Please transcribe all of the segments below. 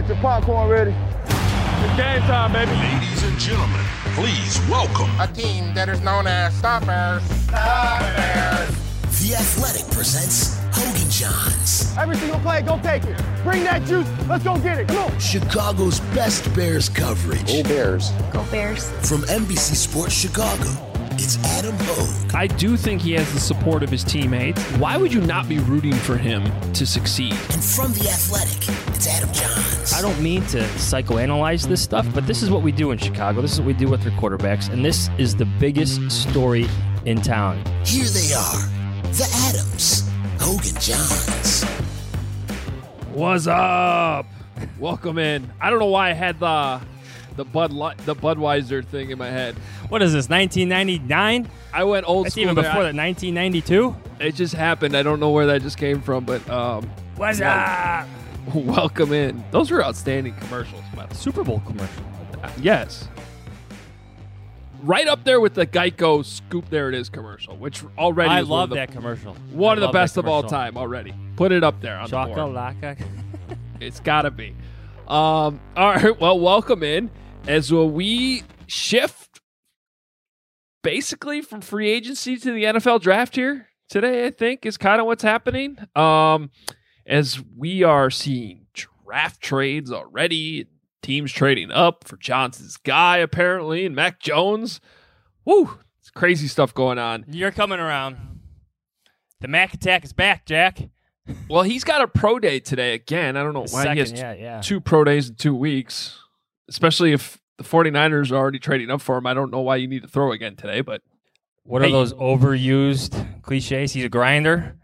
Get your popcorn ready. It's game time, baby. Ladies and gentlemen, please welcome a team that is known as Stoppers. Stoppers. The Athletic presents Hogan Johns. Every single play, go take it. Bring that juice. Let's go get it. Come on. Chicago's best Bears coverage. Go Bears. Go Bears. From NBC Sports Chicago, it's Adam Hogue. I do think he has the support of his teammates. Why would you not be rooting for him to succeed? And from The Athletic, it's Adam Johns. I don't mean to psychoanalyze this stuff, but this is what we do in Chicago. This is what we do with their quarterbacks, and this is the biggest story in town. Here they are, the Adams, Hogan Johns. What's up? Welcome in. I don't know why I had the Budweiser thing in my head. What is this, 1999? I went old That's school. even before that, 1992? It just happened. I don't know where that just came from, but What's up? welcome in. Those were outstanding commercials, by the way. Super Bowl commercial. Yes. Right up there with the Geico Scoop There It Is commercial, which already I is love that commercial. One of the love best that of all commercial. time already. Put it up there on the board. Chocolate. It's got to be. All right, well, welcome in as we shift basically from free agency to the NFL draft here today, I think, is kind of what's happening. As we are seeing draft trades already, teams trading up for Johnson's guy, apparently, and Mac Jones. Woo, it's crazy stuff going on. You're coming around. The Mac attack is back, Jack. Well, he's got a pro day today again. I don't know why he has two pro days in 2 weeks, especially if the 49ers are already trading up for him. I don't know why you need to throw again today, but what are those overused cliches? He's a grinder.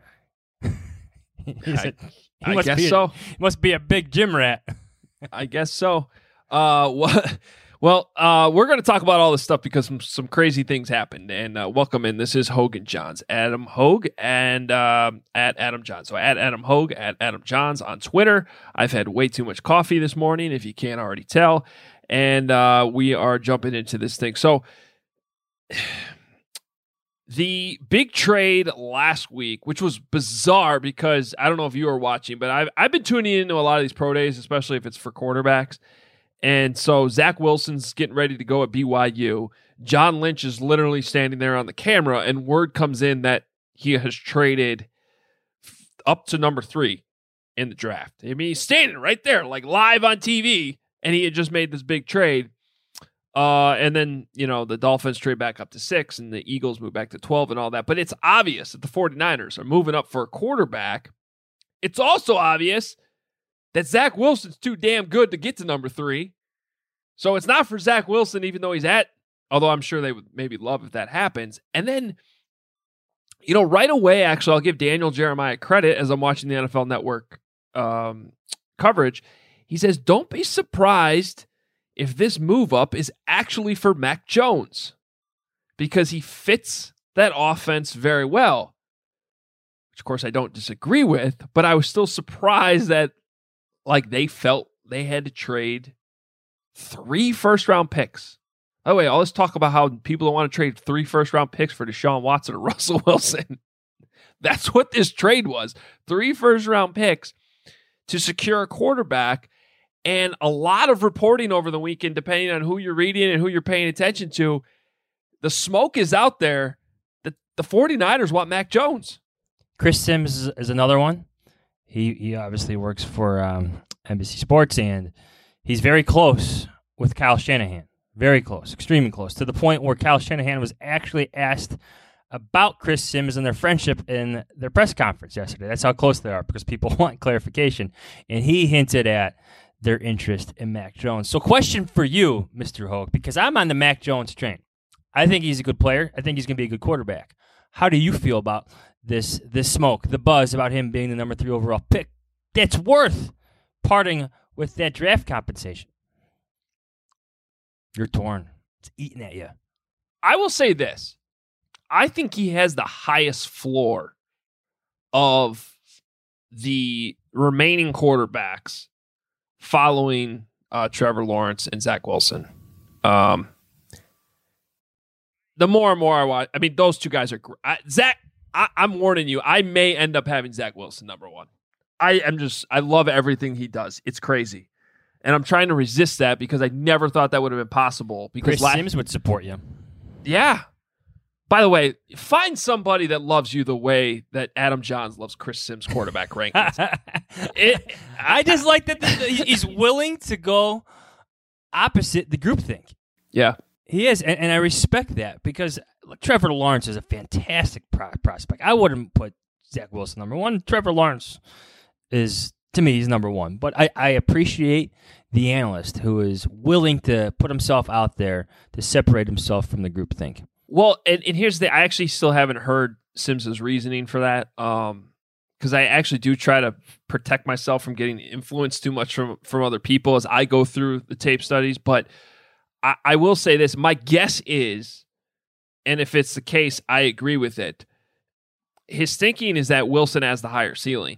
I guess so. He must be a big gym rat. I guess so. Well, we're going to talk about all this stuff because some crazy things happened. And welcome in. This is Hogan Johns, Adam Hogue, and at Adam Johns. So at Adam Hogue, at Adam Johns on Twitter. I've had way too much coffee this morning, if you can't already tell. And we are jumping into this thing. So the big trade last week, which was bizarre because I don't know if you were watching, but I've been tuning into a lot of these pro days, especially if it's for quarterbacks. And so Zach Wilson's getting ready to go at BYU. John Lynch is literally standing there on the camera, and word comes in that he has traded up to number 3 in the draft. I mean, he's standing right there, like live on TV, and he had just made this big trade. And then, the Dolphins trade back up to 6, and the Eagles move back to 12 and all that. But it's obvious that the 49ers are moving up for a quarterback. It's also obvious that Zach Wilson's too damn good to get to number 3. So it's not for Zach Wilson, even though although I'm sure they would maybe love if that happens. And then, right away, actually, I'll give Daniel Jeremiah credit as I'm watching the NFL Network coverage. He says, don't be surprised if this move up is actually for Mac Jones, because he fits that offense very well, which of course I don't disagree with, but I was still surprised that they felt they had to trade 3 first-round picks. By the way, let's talk about how people don't want to trade 3 first-round picks for Deshaun Watson or Russell Wilson. That's what this trade was. 3 first-round picks to secure a quarterback. And a lot of reporting over the weekend, depending on who you're reading and who you're paying attention to, the smoke is out there that the 49ers want Mac Jones. Chris Sims is another one. He obviously works for NBC Sports, and he's very close with Kyle Shanahan. Very close, extremely close, to the point where Kyle Shanahan was actually asked about Chris Sims and their friendship in their press conference yesterday. That's how close they are, because people want clarification. And he hinted at their interest in Mac Jones. So question for you, Mr. Hogue, because I'm on the Mac Jones train. I think he's a good player. I think he's going to be a good quarterback. How do you feel about this smoke, the buzz about him being the number 3 overall pick that's worth parting with that draft compensation? You're torn. It's eating at you. I will say this. I think he has the highest floor of the remaining quarterbacks following Trevor Lawrence and Zach Wilson. The more and more I watch, those two guys are great. I'm warning you, I may end up having Zach Wilson number 1. I love everything he does. It's crazy. And I'm trying to resist that because I never thought that would have been possible. Because Chris Sims would support you. Yeah. By the way, find somebody that loves you the way that Adam Johns loves Chris Sims quarterback rankings. I just like that he's willing to go opposite the groupthink. Yeah. He is, and I respect that because Trevor Lawrence is a fantastic prospect. I wouldn't put Zach Wilson number one. Trevor Lawrence is, to me, he's number one. But I appreciate the analyst who is willing to put himself out there to separate himself from the groupthink. Well, and here's I actually still haven't heard Sims's reasoning for that. Because I actually do try to protect myself from getting influenced too much from other people as I go through the tape studies. But I will say this. My guess is, and if it's the case, I agree with it. His thinking is that Wilson has the higher ceiling.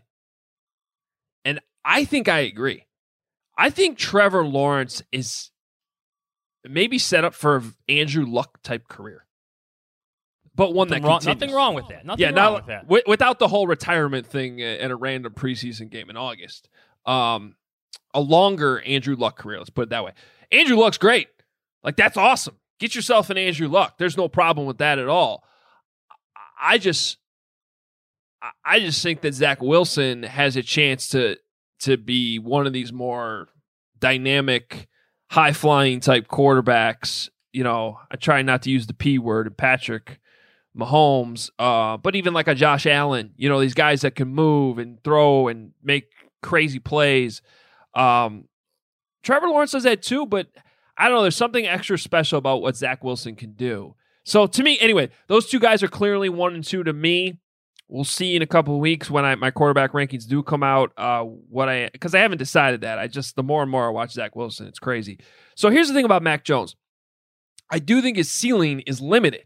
And I think I agree. I think Trevor Lawrence is maybe set up for an Andrew Luck type career. But one that continues. Nothing wrong with that. Nothing wrong with that. Without the whole retirement thing and a random preseason game in August. A longer Andrew Luck career, let's put it that way. Andrew Luck's great. Like, that's awesome. Get yourself an Andrew Luck. There's no problem with that at all. I just think that Zach Wilson has a chance to be one of these more dynamic, high-flying type quarterbacks. You know, I try not to use the P word, and Patrick Mahomes, but even like a Josh Allen, you know, these guys that can move and throw and make crazy plays. Trevor Lawrence does that too, but I don't know. There's something extra special about what Zach Wilson can do. So to me, anyway, those two guys are clearly 1 and 2 to me. We'll see in a couple of weeks when my quarterback rankings do come out. Because I haven't decided that. The more and more I watch Zach Wilson, it's crazy. So here's the thing about Mac Jones. I do think his ceiling is limited.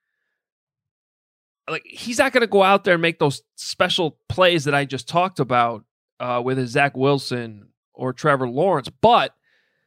Like, he's not going to go out there and make those special plays that I just talked about with his Zach Wilson or Trevor Lawrence, but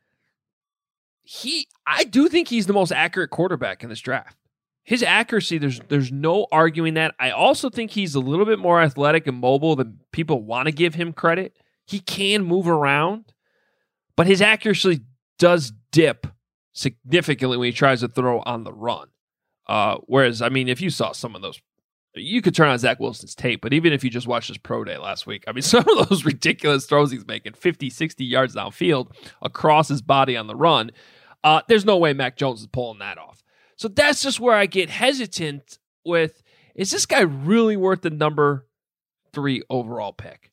I do think he's the most accurate quarterback in this draft. His accuracy, there's no arguing that. I also think he's a little bit more athletic and mobile than people want to give him credit. He can move around, but his accuracy does dip significantly when he tries to throw on the run. Whereas, I mean, if you saw some of those, you could turn on Zach Wilson's tape, but even if you just watched his pro day last week, I mean, some of those ridiculous throws he's making, 50, 60 yards downfield across his body on the run, there's no way Mac Jones is pulling that off. So that's just where I get hesitant with, is this guy really worth the number 3 overall pick?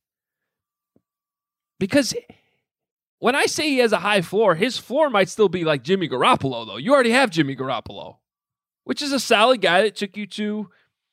Because when I say he has a high floor, his floor might still be like Jimmy Garoppolo, though. You already have Jimmy Garoppolo, which is a solid guy that took you to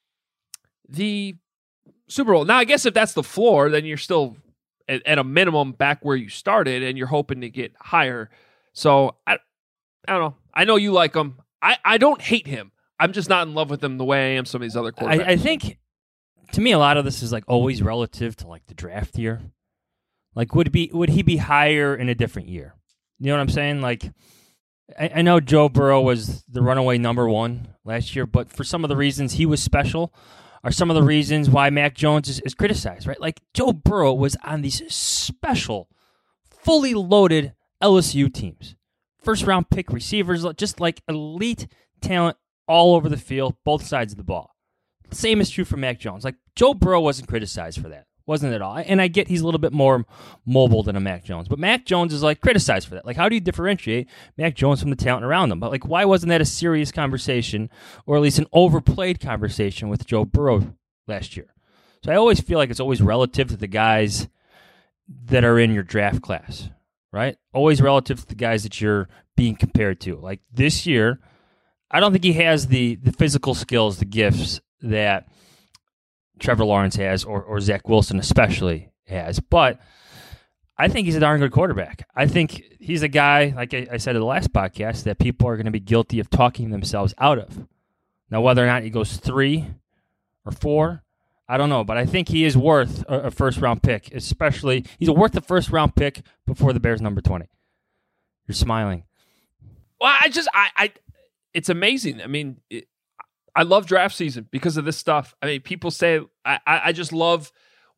the Super Bowl. Now, I guess if that's the floor, then you're still at a minimum back where you started, and you're hoping to get higher. So, I don't know. I know you like him. I don't hate him. I'm just not in love with him the way I am some of these other quarterbacks. I think, to me, a lot of this is like always relative to like the draft year. Like, would he be higher in a different year? You know what I'm saying? Like, I know Joe Burrow was the runaway number 1 last year, but for some of the reasons he was special are some of the reasons why Mac Jones is criticized, right? Like, Joe Burrow was on these special, fully loaded LSU teams. First-round pick receivers, just like elite talent all over the field, both sides of the ball. Same is true for Mac Jones. Like, Joe Burrow wasn't criticized for that. Wasn't at all. And I get he's a little bit more mobile than a Mac Jones. But Mac Jones is, like, criticized for that. Like, how do you differentiate Mac Jones from the talent around him? But, like, why wasn't that a serious conversation, or at least an overplayed conversation with Joe Burrow last year? So I always feel like it's always relative to the guys that are in your draft class, right? Always relative to the guys that you're being compared to. Like, this year, I don't think he has the physical skills, the gifts that Trevor Lawrence has, or Zach Wilson especially has. But I think he's a darn good quarterback. I think he's a guy, like I said in the last podcast, that people are going to be guilty of talking themselves out of. Now, whether or not he goes 3 or 4, I don't know. But I think he is worth a first-round pick, especially. He's worth the first-round pick before the Bears number 20. You're smiling. Well, it's amazing. I mean, I love draft season because of this stuff. I mean, people say I just love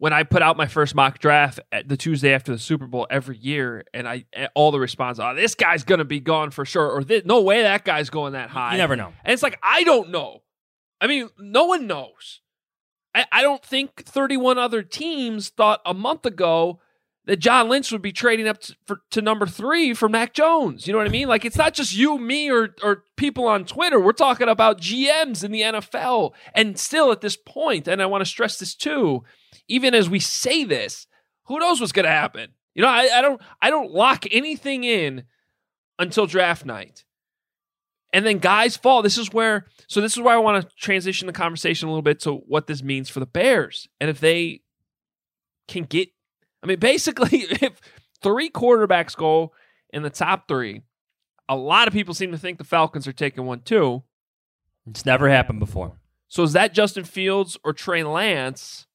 when I put out my first mock draft at the Tuesday after the Super Bowl every year, and all the response, this guy's going to be gone for sure, or no way that guy's going that high. You never know. And it's like, I don't know. I mean, no one knows. I don't think 31 other teams thought a month ago that John Lynch would be trading up to number 3 for Mac Jones. You know what I mean? Like, it's not just you, me, or people on Twitter. We're talking about GMs in the NFL. And still at this point, and I want to stress this too, even as we say this, who knows what's going to happen? You know, I don't lock anything in until draft night. And then guys fall. This is where I want to transition the conversation a little bit to what this means for the Bears. And if they can get, I mean, basically, if 3 quarterbacks go in the top 3, a lot of people seem to think the Falcons are taking one too. It's never happened before. So is that Justin Fields or Trey Lance?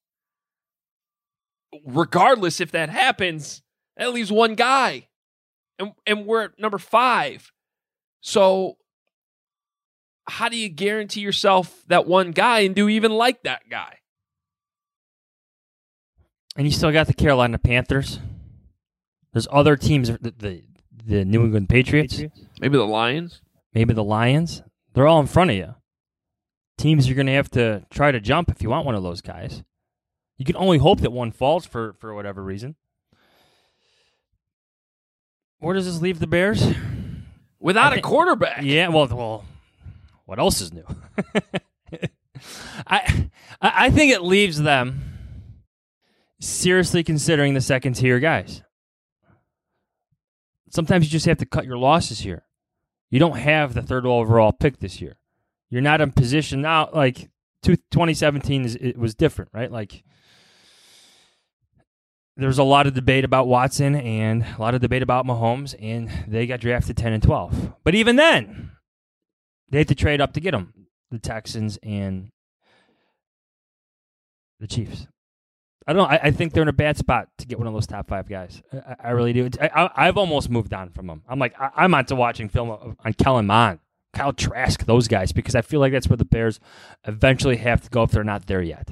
Regardless if that happens, that leaves one guy. And we're at number 5. So how do you guarantee yourself that one guy and do even like that guy? And you still got the Carolina Panthers. There's other teams, the New England Patriots. Maybe the Lions. Maybe the Lions. They're all in front of you. Teams you're going to have to try to jump if you want one of those guys. You can only hope that one falls for whatever reason. Where does this leave the Bears? Without a quarterback. Yeah, well, what else is new? I think it leaves them seriously considering the second-tier guys. Sometimes you just have to cut your losses here. You don't have the 3rd overall pick this year. You're not in position now. Like 2017, it was different, right? Like there's a lot of debate about Watson and a lot of debate about Mahomes, and they got drafted 10 and 12. But even then, they had to trade up to get them, the Texans and the Chiefs. I don't know. I think they're in a bad spot to get one of those top 5 guys. I really do. I've almost moved on from them. I'm like, I'm on to watching film on Kellen Mond, Kyle Trask, those guys, because I feel like that's where the Bears eventually have to go if they're not there yet.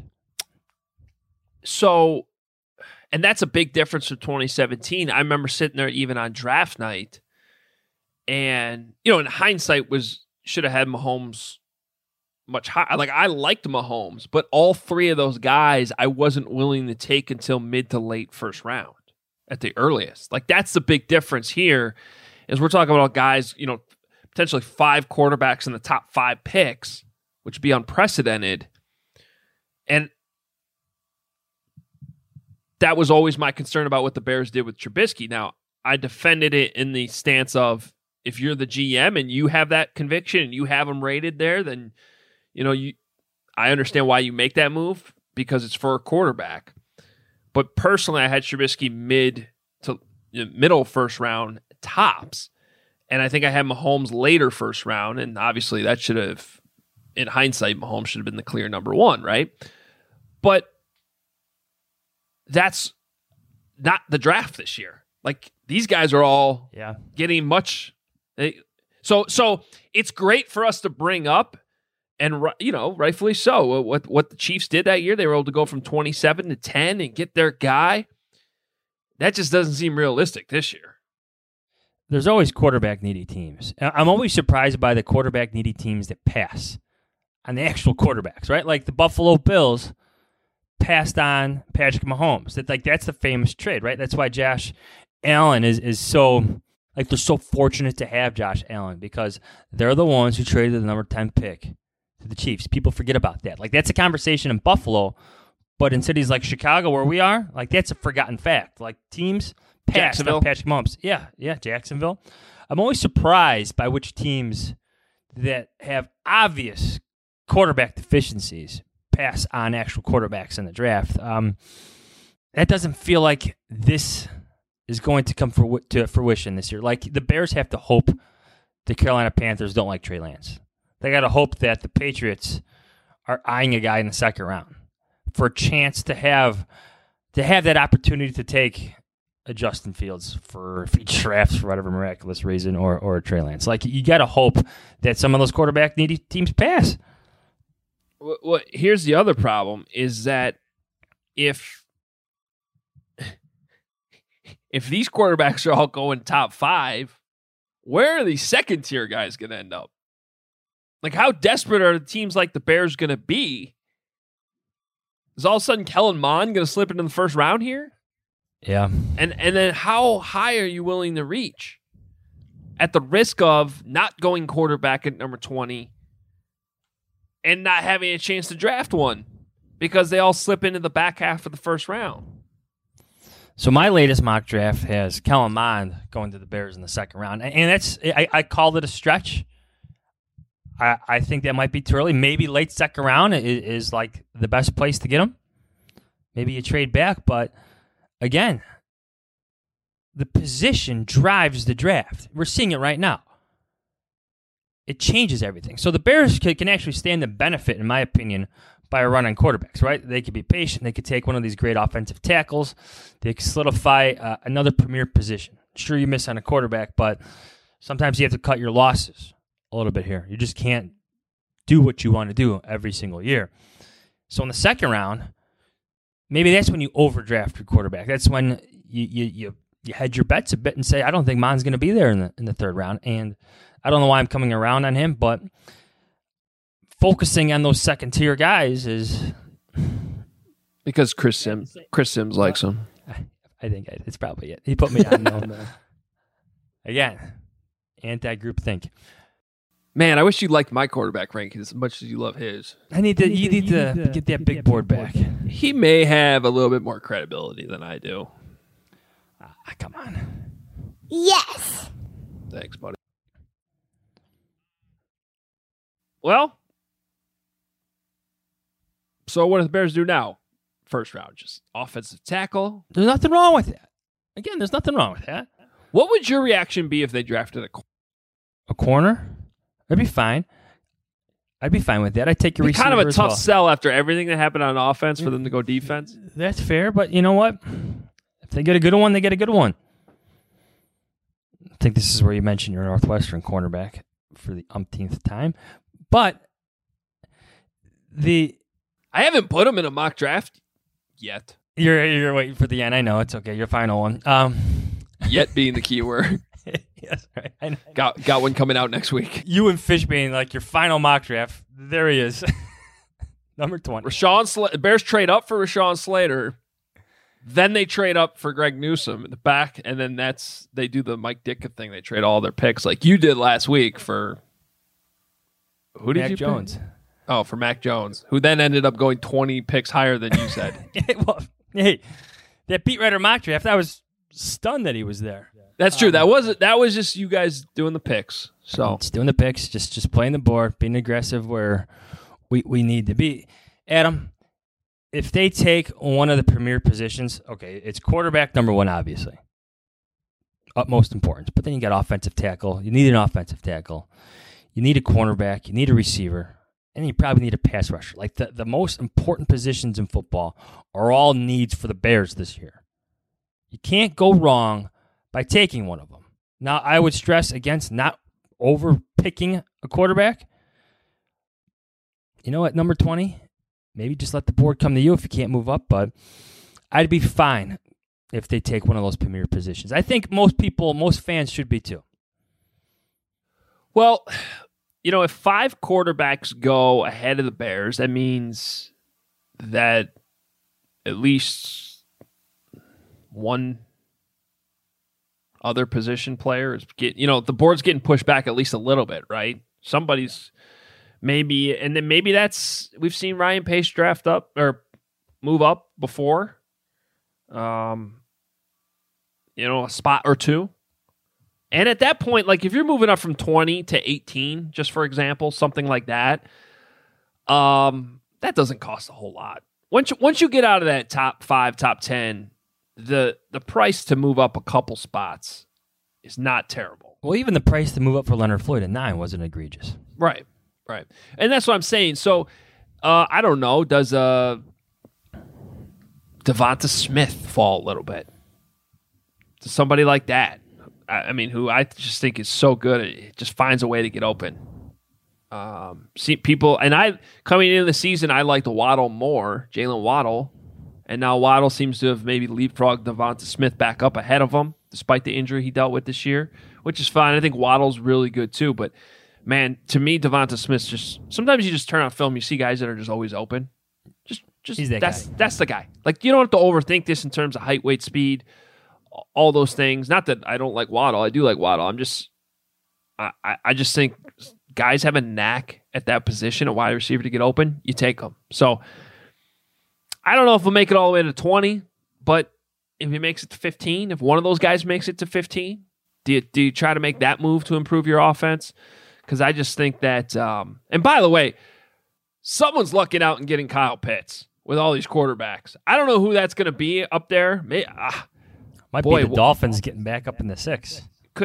So, and that's a big difference from 2017. I remember sitting there even on draft night, and, you know, in hindsight, should have had Mahomes much higher. Like, I liked Mahomes, but all 3 of those guys I wasn't willing to take until mid to late first round at the earliest. Like, that's the big difference here is we're talking about guys, you know, potentially 5 quarterbacks in the top 5 picks, which would be unprecedented. And that was always my concern about what the Bears did with Trubisky. Now, I defended it in the stance of if you're the GM and you have that conviction and you have him rated there, then you know, I understand why you make that move because it's for a quarterback. But personally, I had Trubisky middle first round tops. And I think I had Mahomes later first round. And obviously that should have, in hindsight, Mahomes should have been the clear number 1, right? But that's not the draft this year. Like, these guys are all getting much. So it's great for us to bring up. And, you know, rightfully so. What the Chiefs did that year, they were able to go from 27 to 10 and get their guy. That just doesn't seem realistic this year. There's always quarterback-needy teams. I'm always surprised by the quarterback-needy teams that pass on the actual quarterbacks, right? Like the Buffalo Bills passed on Patrick Mahomes. That's the famous trade, right? That's why Josh Allen is so... Like, they're so fortunate to have Josh Allen because they're the ones who traded the number 10 pick to the Chiefs. People forget about that. Like, that's a conversation in Buffalo, but in cities like Chicago where we are, like, that's a forgotten fact. Like, teams passed on Patrick Mahomes. Yeah, Jacksonville. I'm always surprised by which teams that have obvious quarterback deficiencies pass on actual quarterbacks in the draft. That doesn't feel like this is going to come to fruition this year. Like, the Bears have to hope the Carolina Panthers don't like Trey Lance. They got to hope that the Patriots are eyeing a guy in the 2nd round for a chance to have that opportunity to take a Justin Fields if he drafts for whatever miraculous reason or a Trey Lance. Like, you got to hope that some of those quarterback-needy teams pass. Well, here's the other problem is that if if these quarterbacks are all going top 5, where are these second-tier guys going to end up? Like, how desperate are teams like the Bears going to be? Is all of a sudden Kellen Mond going to slip into the first round here? Yeah. And then how high are you willing to reach? At the risk of not going quarterback at number 20 and not having a chance to draft one because they all slip into the back half of the first round. So my latest mock draft has Kellen Mond going to the Bears in the second round. And that's I called it a stretch. I think that might be too early. Maybe late second round is like the best place to get him. Maybe you trade back, but again, the position drives the draft. We're seeing it right now. It changes everything. So the Bears can actually stand to benefit, in my opinion, by a run on quarterbacks, right? They could be patient. They could take one of these great offensive tackles. They could solidify another premier position. Sure, you miss on a quarterback, but sometimes you have to cut your losses a little bit here. You just can't do what you want to do every single year. So in the second round, maybe that's when you overdraft your quarterback. That's when you hedge your bets a bit and say, I don't think Mond's going to be there in the third round. And I don't know why I'm coming around on him, but focusing on those second-tier guys is... Because Chris Sims likes him. I think it's probably it. He put me on them. Again, anti-group think. Man, I wish you liked my quarterback rankings as much as you love his. You need to get that big board back. He may have a little bit more credibility than I do. Come on. Yes. Thanks, buddy. Well, so what do the Bears do now? First round, just offensive tackle. There's nothing wrong with that. Again, there's nothing wrong with that. What would your reaction be if they drafted a corner? That'd be fine. I'd be fine with that. I'd take your receiver. Kind of a tough well. sell after everything that happened on offense for them to go defense. That's fair, but you know what? If they get a good one, they get a good one. I think this is where you mentioned your Northwestern cornerback for the umpteenth time. But I haven't put him in a mock draft yet. You're waiting for the end. I know. It's okay. Your final one. Yet being the key word. Yes, right. I know. Got one coming out next week. You and Fishbane, like your final mock draft. There he is. Number 20. Bears trade up for Rashawn Slater. Then they trade up for Greg Newsome in the back, and then they do the Mike Ditka thing. They trade all their picks like you did last week for who did Mac you Jones. Pick? Oh, for Mac Jones, who then ended up going 20 picks higher than you said. Well, hey, that beat writer mock draft, I was stunned that he was there. That's true. That was just you guys doing the picks. So just doing the picks, just playing the board, being aggressive where we need to be. Adam, if they take one of the premier positions, okay, it's quarterback number one, obviously. Utmost importance. But then you got offensive tackle. You need an offensive tackle. You need a cornerback. You need a receiver. And you probably need a pass rusher. Like the most important positions in football are all needs for the Bears this year. You can't go wrong by taking one of them. Now, I would stress against not over-picking a quarterback. You know, at number 20, maybe just let the board come to you if you can't move up, but I'd be fine if they take one of those premier positions. I think most fans should be too. Well, you know, if 5 quarterbacks go ahead of the Bears, that means that at least one other position player is the board's getting pushed back at least a little bit, right? Somebody's maybe, and then maybe we've seen Ryan Pace draft up or move up before, a spot or two. And at that point, like if you're moving up from 20 to 18, just for example, something like that, that doesn't cost a whole lot. Once you get out of that top 5, top 10, the price to move up a couple spots is not terrible. Well, even the price to move up for Leonard Floyd at 9 wasn't egregious. Right. And that's what I'm saying. So, I don't know, does Devonta Smith fall a little bit? To somebody like that? I mean, who I just think is so good, it just finds a way to get open. See people, and coming into the season, I liked Waddle more, Jalen Waddle, And now Waddle seems to have maybe leapfrogged Devonta Smith back up ahead of him, despite the injury he dealt with this year, which is fine. I think Waddle's really good too. But, man, to me, Devonta Smith's just – sometimes you just turn on film, you see guys that are just always open. He's that guy. That's the guy. Like, you don't have to overthink this in terms of height, weight, speed, all those things. Not that I don't like Waddle. I do like Waddle. I just think guys have a knack at that position, a wide receiver, to get open. You take them. So – I don't know if we'll make it all the way to 20, but if he makes it to 15, if one of those guys makes it to 15, do you try to make that move to improve your offense? Because I just think that, and by the way, someone's lucking out and getting Kyle Pitts with all these quarterbacks. I don't know who that's going to be up there. Might be the Dolphins getting back up in the 6.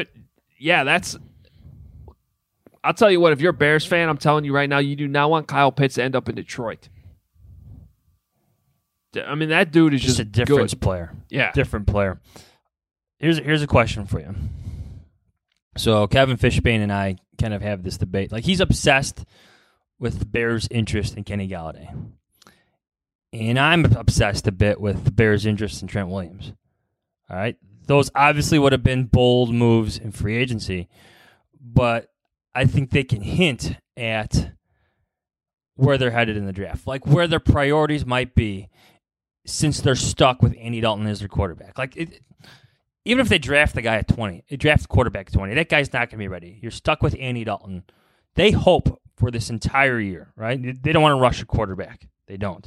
I'll tell you what, if you're a Bears fan, I'm telling you right now, you do not want Kyle Pitts to end up in Detroit. I mean, that dude is just a difference good. player. Yeah. Different player. Here's a question for you. So Kevin Fishbane and I kind of have this debate. Like, he's obsessed with the Bears' interest in Kenny Galladay. And I'm obsessed a bit with the Bears' interest in Trent Williams. All right? Those obviously would have been bold moves in free agency, but I think they can hint at where they're headed in the draft, like where their priorities might be, since they're stuck with Andy Dalton as their quarterback. Like, even if they draft the guy at 20, they draft the quarterback at 20, that guy's not going to be ready. You're stuck with Andy Dalton. They hope for this entire year, right? They don't want to rush a quarterback. They don't.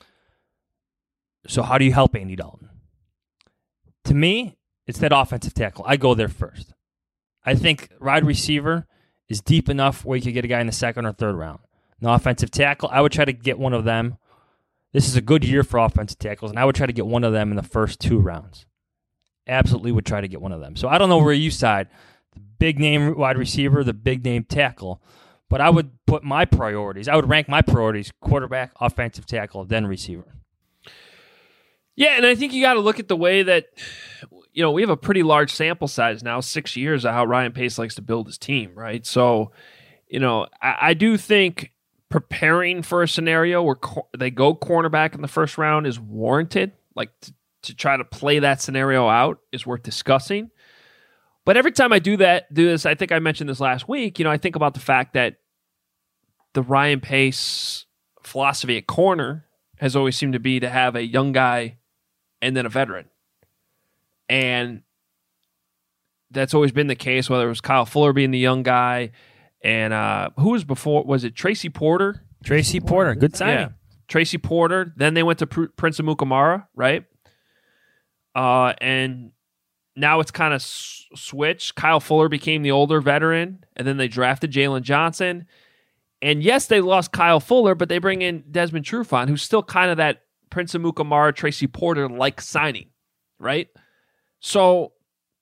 So how do you help Andy Dalton? To me, it's that offensive tackle. I go there first. I think wide receiver is deep enough where you could get a guy in the 2nd or 3rd round. No offensive tackle, I would try to get one of them. This is a good year for offensive tackles, and I would try to get one of them in the first 2 rounds. Absolutely would try to get one of them. So I don't know where you side, the big-name wide receiver, the big-name tackle, but I would put my priorities. I would rank my priorities: quarterback, offensive tackle, then receiver. Yeah, and I think you got to look at the way that, we have a pretty large sample size now, 6 years of how Ryan Pace likes to build his team, right? So, I do think preparing for a scenario where they go cornerback in the first round is warranted. Like, to try to play that scenario out is worth discussing. But every time I do this, I think I mentioned this last week, I think about the fact that the Ryan Pace philosophy at corner has always seemed to be to have a young guy and then a veteran. And that's always been the case, whether it was Kyle Fuller being the young guy, and who was before? Was it Tracy Porter? Tracy Porter, good signing. Yeah. Tracy Porter. Then they went to Prince Amukamara, right? And now it's kind of switched. Kyle Fuller became the older veteran, and then they drafted Jalen Johnson. And yes, they lost Kyle Fuller, but they bring in Desmond Trufant, who's still kind of that Prince Amukamara, Tracy Porter-like signing, right? So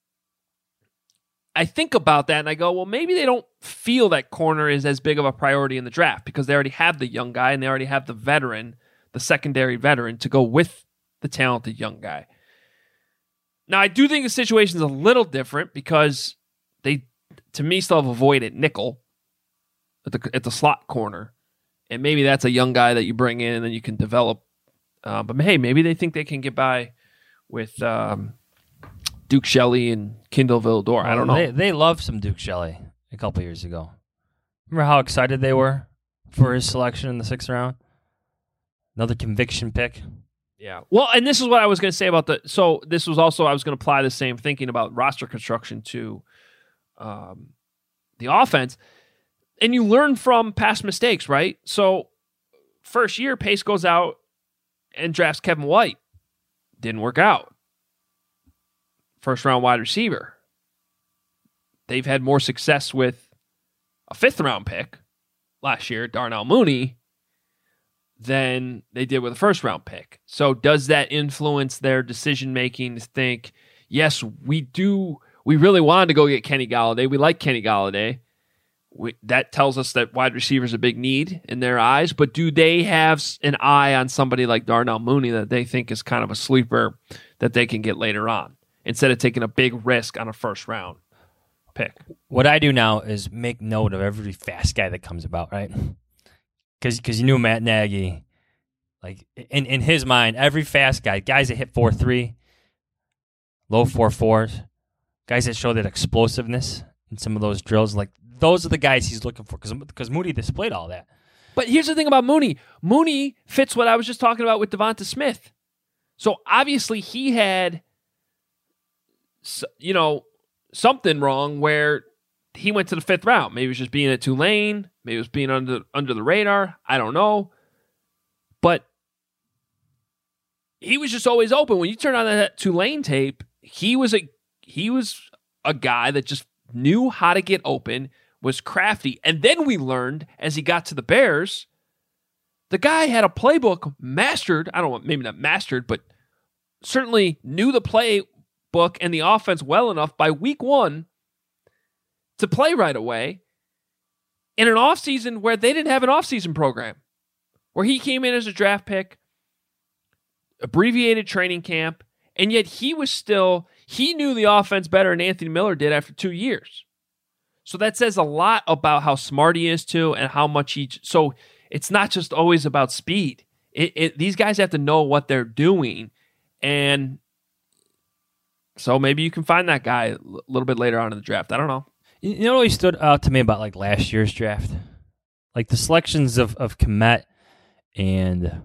I think about that and I go, well, maybe they don't feel that corner is as big of a priority in the draft because they already have the young guy and they already have the veteran, the secondary veteran, to go with the talented young guy. Now, I do think the situation is a little different because they, to me, still have avoided nickel at the slot corner. And maybe that's a young guy that you bring in and then you can develop. But hey, maybe they think they can get by with Duke Shelley and Kendall Villador. I don't know. They loved some Duke Shelley a couple years ago. Remember how excited they were for his selection in the 6th round? Another conviction pick. Yeah. Well, and this is what I was going to say about so this was also, I was going to apply the same thinking about roster construction to the offense. And you learn from past mistakes, right? So first year, Pace goes out and drafts Kevin White. Didn't work out. First round wide receiver. They've had more success with a 5th round pick last year, Darnell Mooney, than they did with a 1st round pick. So does that influence their decision making to think, yes, we really wanted to go get Kenny Galladay. We like Kenny Galladay. That tells us that wide receiver is a big need in their eyes, but do they have an eye on somebody like Darnell Mooney that they think is kind of a sleeper that they can get later on instead of taking a big risk on a 1st round pick? What I do now is make note of every fast guy that comes about, right? Because you knew Matt Nagy Like in his mind, every fast guy, guys that hit 4.3, low 4.4s, guys that show that explosiveness in some of those drills, like those are the guys he's looking for because Mooney displayed all that. But here's the thing about Mooney. Mooney fits what I was just talking about with Devonta Smith. So obviously he had, something wrong where he went to the 5th round. Maybe it was just being at Tulane. Maybe it was being under the radar. I don't know. But he was just always open. When you turn on that Tulane tape, he was a guy that just knew how to get open, was crafty. And then we learned as he got to the Bears, the guy had a playbook mastered. I don't know, maybe not mastered, but certainly knew the playbook and the offense well enough by week 1 to play right away in an offseason where they didn't have an offseason program, where he came in as a draft pick, abbreviated training camp, and yet he knew the offense better than Anthony Miller did after 2 years. So that says a lot about how smart he is too, and how much so it's not just always about speed. These guys have to know what they're doing, and so maybe you can find that guy a little bit later on in the draft. I don't know. You know what always stood out to me about like last year's draft? Like the selections of Kmet and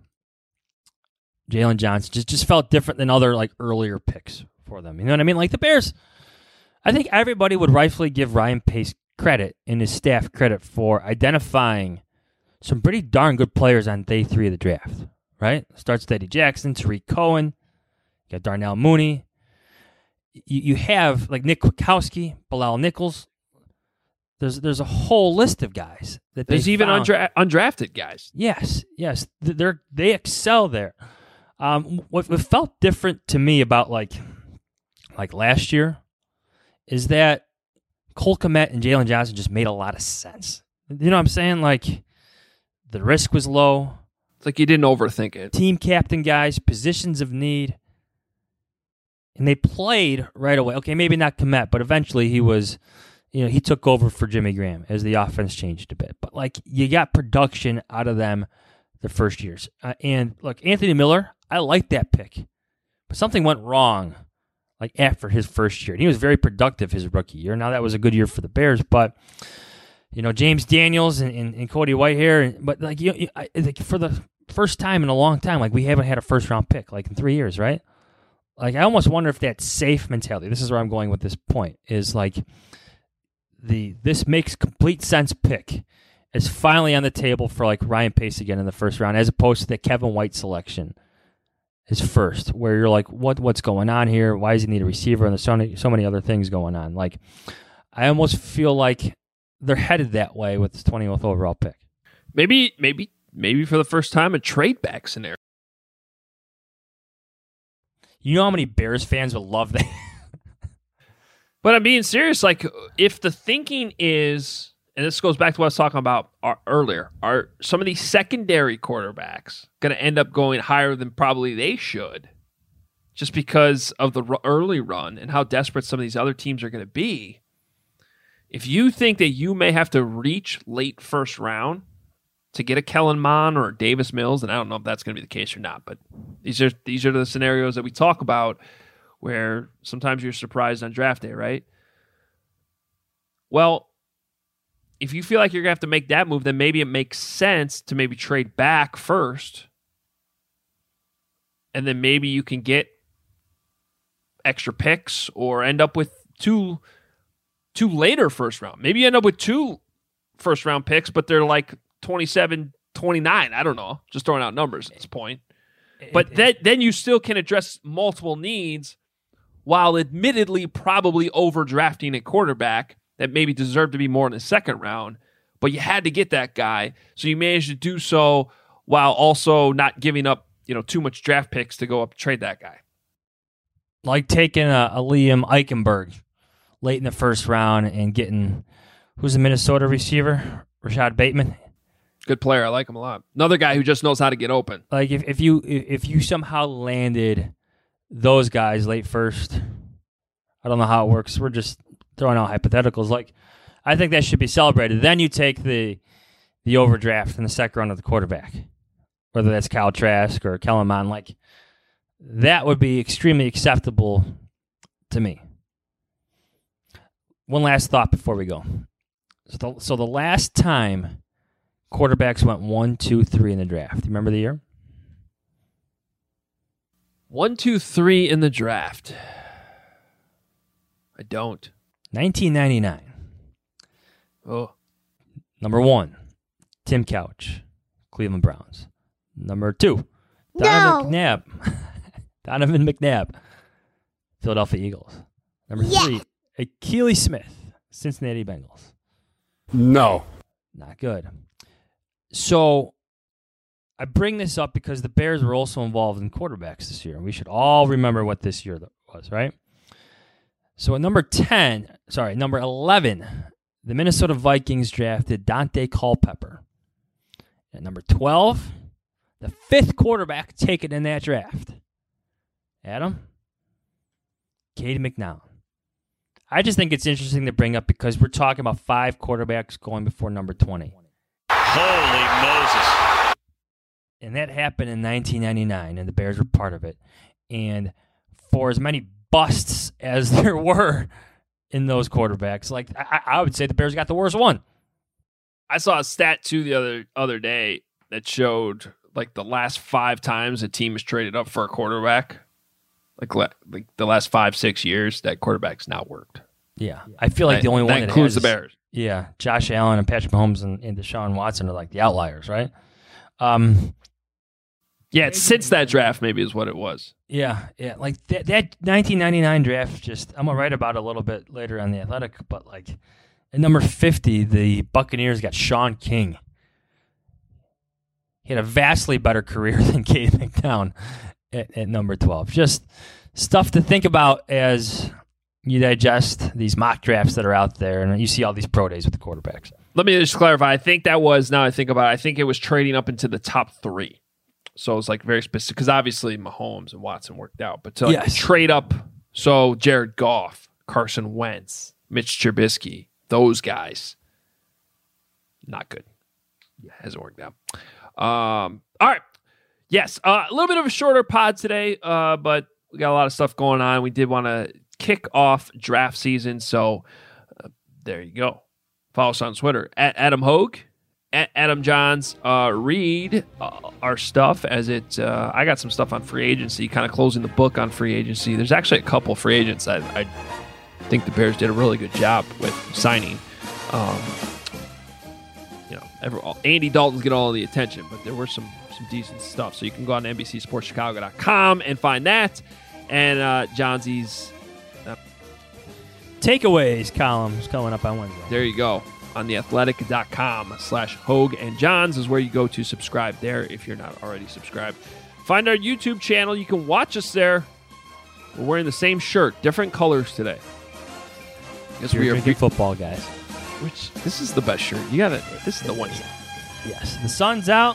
Jalen Johnson just felt different than other like earlier picks for them. You know what I mean? Like the Bears, I think everybody would rightfully give Ryan Pace credit and his staff credit for identifying some pretty darn good players on day 3 of the draft, right? Starts with Eddie Jackson, Tariq Cohen, you got Darnell Mooney. You have like Nick Kwiatkowski, Bilal Nichols. There's a whole list of guys that there's even undrafted guys. Yes, they excel there. What felt different to me about like last year is that Cole Kmet and Jalen Johnson just made a lot of sense. You know what I'm saying? Like the risk was low. It's like you didn't overthink it. Team captain guys, positions of need. And they played right away. Okay, maybe not Kmet, but eventually he was, he took over for Jimmy Graham as the offense changed a bit. But like you got production out of them the first years. And look, Anthony Miller, I like that pick. But something went wrong like after his first year. And he was very productive his rookie year. Now that was a good year for the Bears, but James Daniels and Cody Whitehair, but like for the first time in a long time, like we haven't had a first round pick like in 3 years, right? Like I almost wonder if that safe mentality, this is where I'm going with this point, is like this makes complete sense pick is finally on the table for like Ryan Pace again in the first round, as opposed to the Kevin White selection is first, where you're like, what's going on here? Why does he need a receiver? And there's so many other things going on. Like I almost feel like they're headed that way with this 20th overall pick. Maybe for the first time a trade back scenario. You know how many Bears fans would love that? But I'm being serious. Like, if the thinking is, and this goes back to what I was talking about earlier, are some of these secondary quarterbacks going to end up going higher than probably they should just because of the early run and how desperate some of these other teams are going to be? If you think that you may have to reach late first round to get a Kellen Mond or a Davis Mills, and I don't know if that's going to be the case or not, but these are the scenarios that we talk about where sometimes you're surprised on draft day, right? Well, if you feel like you're going to have to make that move, then maybe it makes sense to maybe trade back first, and then maybe you can get extra picks or end up with two later first round. Maybe you end up with 2 first round picks, but they're like 27, 29. I don't know. Just throwing out numbers at this point. But then you still can address multiple needs while admittedly probably overdrafting a quarterback that maybe deserved to be more in the second round, but you had to get that guy. So you managed to do so while also not giving up, too much draft picks to go up and trade that guy. Like taking a Liam Eichenberg late in the first round and getting, who's the Minnesota receiver? Rashad Bateman. Good player. I like him a lot. Another guy who just knows how to get open. Like if you somehow landed those guys late first, I don't know how it works. We're just throwing out hypotheticals. Like I think that should be celebrated. Then you take the overdraft in the second round of the quarterback. whether that's Kyle Trask or Kellen Mond, like that would be extremely acceptable to me. One last thought before we go. So the last time quarterbacks went 1, 2, 3 in the draft, do you remember the year? 1, 2, 3 in the draft. I don't. 1999. Oh. Number 1, Tim Couch, Cleveland Browns. Number 2, Donovan McNabb, Philadelphia Eagles. Number 3, Akili Smith, Cincinnati Bengals. No. Not good. So I bring this up because the Bears were also involved in quarterbacks this year. And we should all remember what this year was, right? So at number 11, the Minnesota Vikings drafted Dante Culpepper. At number 12, the 5th quarterback taken in that draft. Adam? Cade McNown. I just think it's interesting to bring up because we're talking about 5 quarterbacks going before number 20. Holy Moses. And that happened in 1999, and the Bears were part of it. And for as many busts as there were in those quarterbacks, like I would say the Bears got the worst one. I saw a stat, too, the other day that showed, like, the last 5 times a team has traded up for a quarterback. Like the last 5-6 years, that quarterback's not worked. Yeah, I feel like the only one that includes has, the Bears. Yeah, Josh Allen and Patrick Mahomes and Deshaun Watson are like the outliers, right? Yeah, it's since that draft maybe is what it was. Yeah, like that 1999 draft. Just I'm gonna write about it a little bit later on The Athletic, but like at number 50, the Buccaneers got Sean King. He had a vastly better career than Cade McNown at number 12. Just stuff to think about as you digest these mock drafts that are out there and you see all these pro days with the quarterbacks. Let me just clarify. I think that was, now I think about it, I think it was trading up into the top 3. So it's like very specific because obviously Mahomes and Watson worked out. But to like trade up, so Jared Goff, Carson Wentz, Mitch Trubisky, those guys, not good. Hasn't worked out. All right. Yes, a little bit of a shorter pod today, but we got a lot of stuff going on. We did want to kick off draft season, so there you go. Follow us on Twitter, at Adam Hogue, at Adam Johns. Read our stuff as it. I got some stuff on free agency, kind of closing the book on free agency. There's actually a couple free agents I think the Bears did a really good job with signing. Andy Dalton's get all the attention, but there were some decent stuff. So you can go on to NBCSportsChicago.com and find that. And Johnsy's takeaways columns coming up on Wednesday. There you go. On theathletic.com/Hogue and Johns is where you go to subscribe there if you're not already subscribed. Find our YouTube channel. You can watch us there. We're wearing the same shirt, different colors today. Guess we are drinking football, guys. Which this is the best shirt. You got it. This is the one. Yes, the sun's out.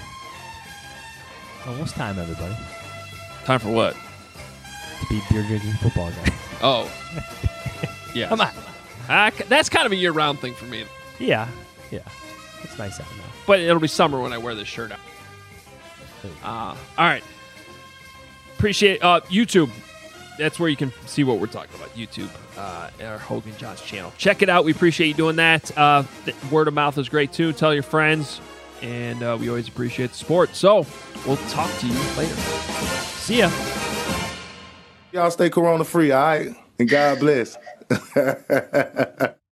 Almost time, everybody. Time for what? To be beer drinking football guy. Oh, yeah. Come on. That's kind of a year-round thing for me. Yeah. It's nice out now. But it'll be summer when I wear this shirt out. All right. Appreciate YouTube. That's where you can see what we're talking about. YouTube, our Hogue and Johns channel. Check it out. We appreciate you doing that. Word of mouth is great too. Tell your friends, and we always appreciate the support. So we'll talk to you later. See ya. Y'all stay corona free, all right? And God bless.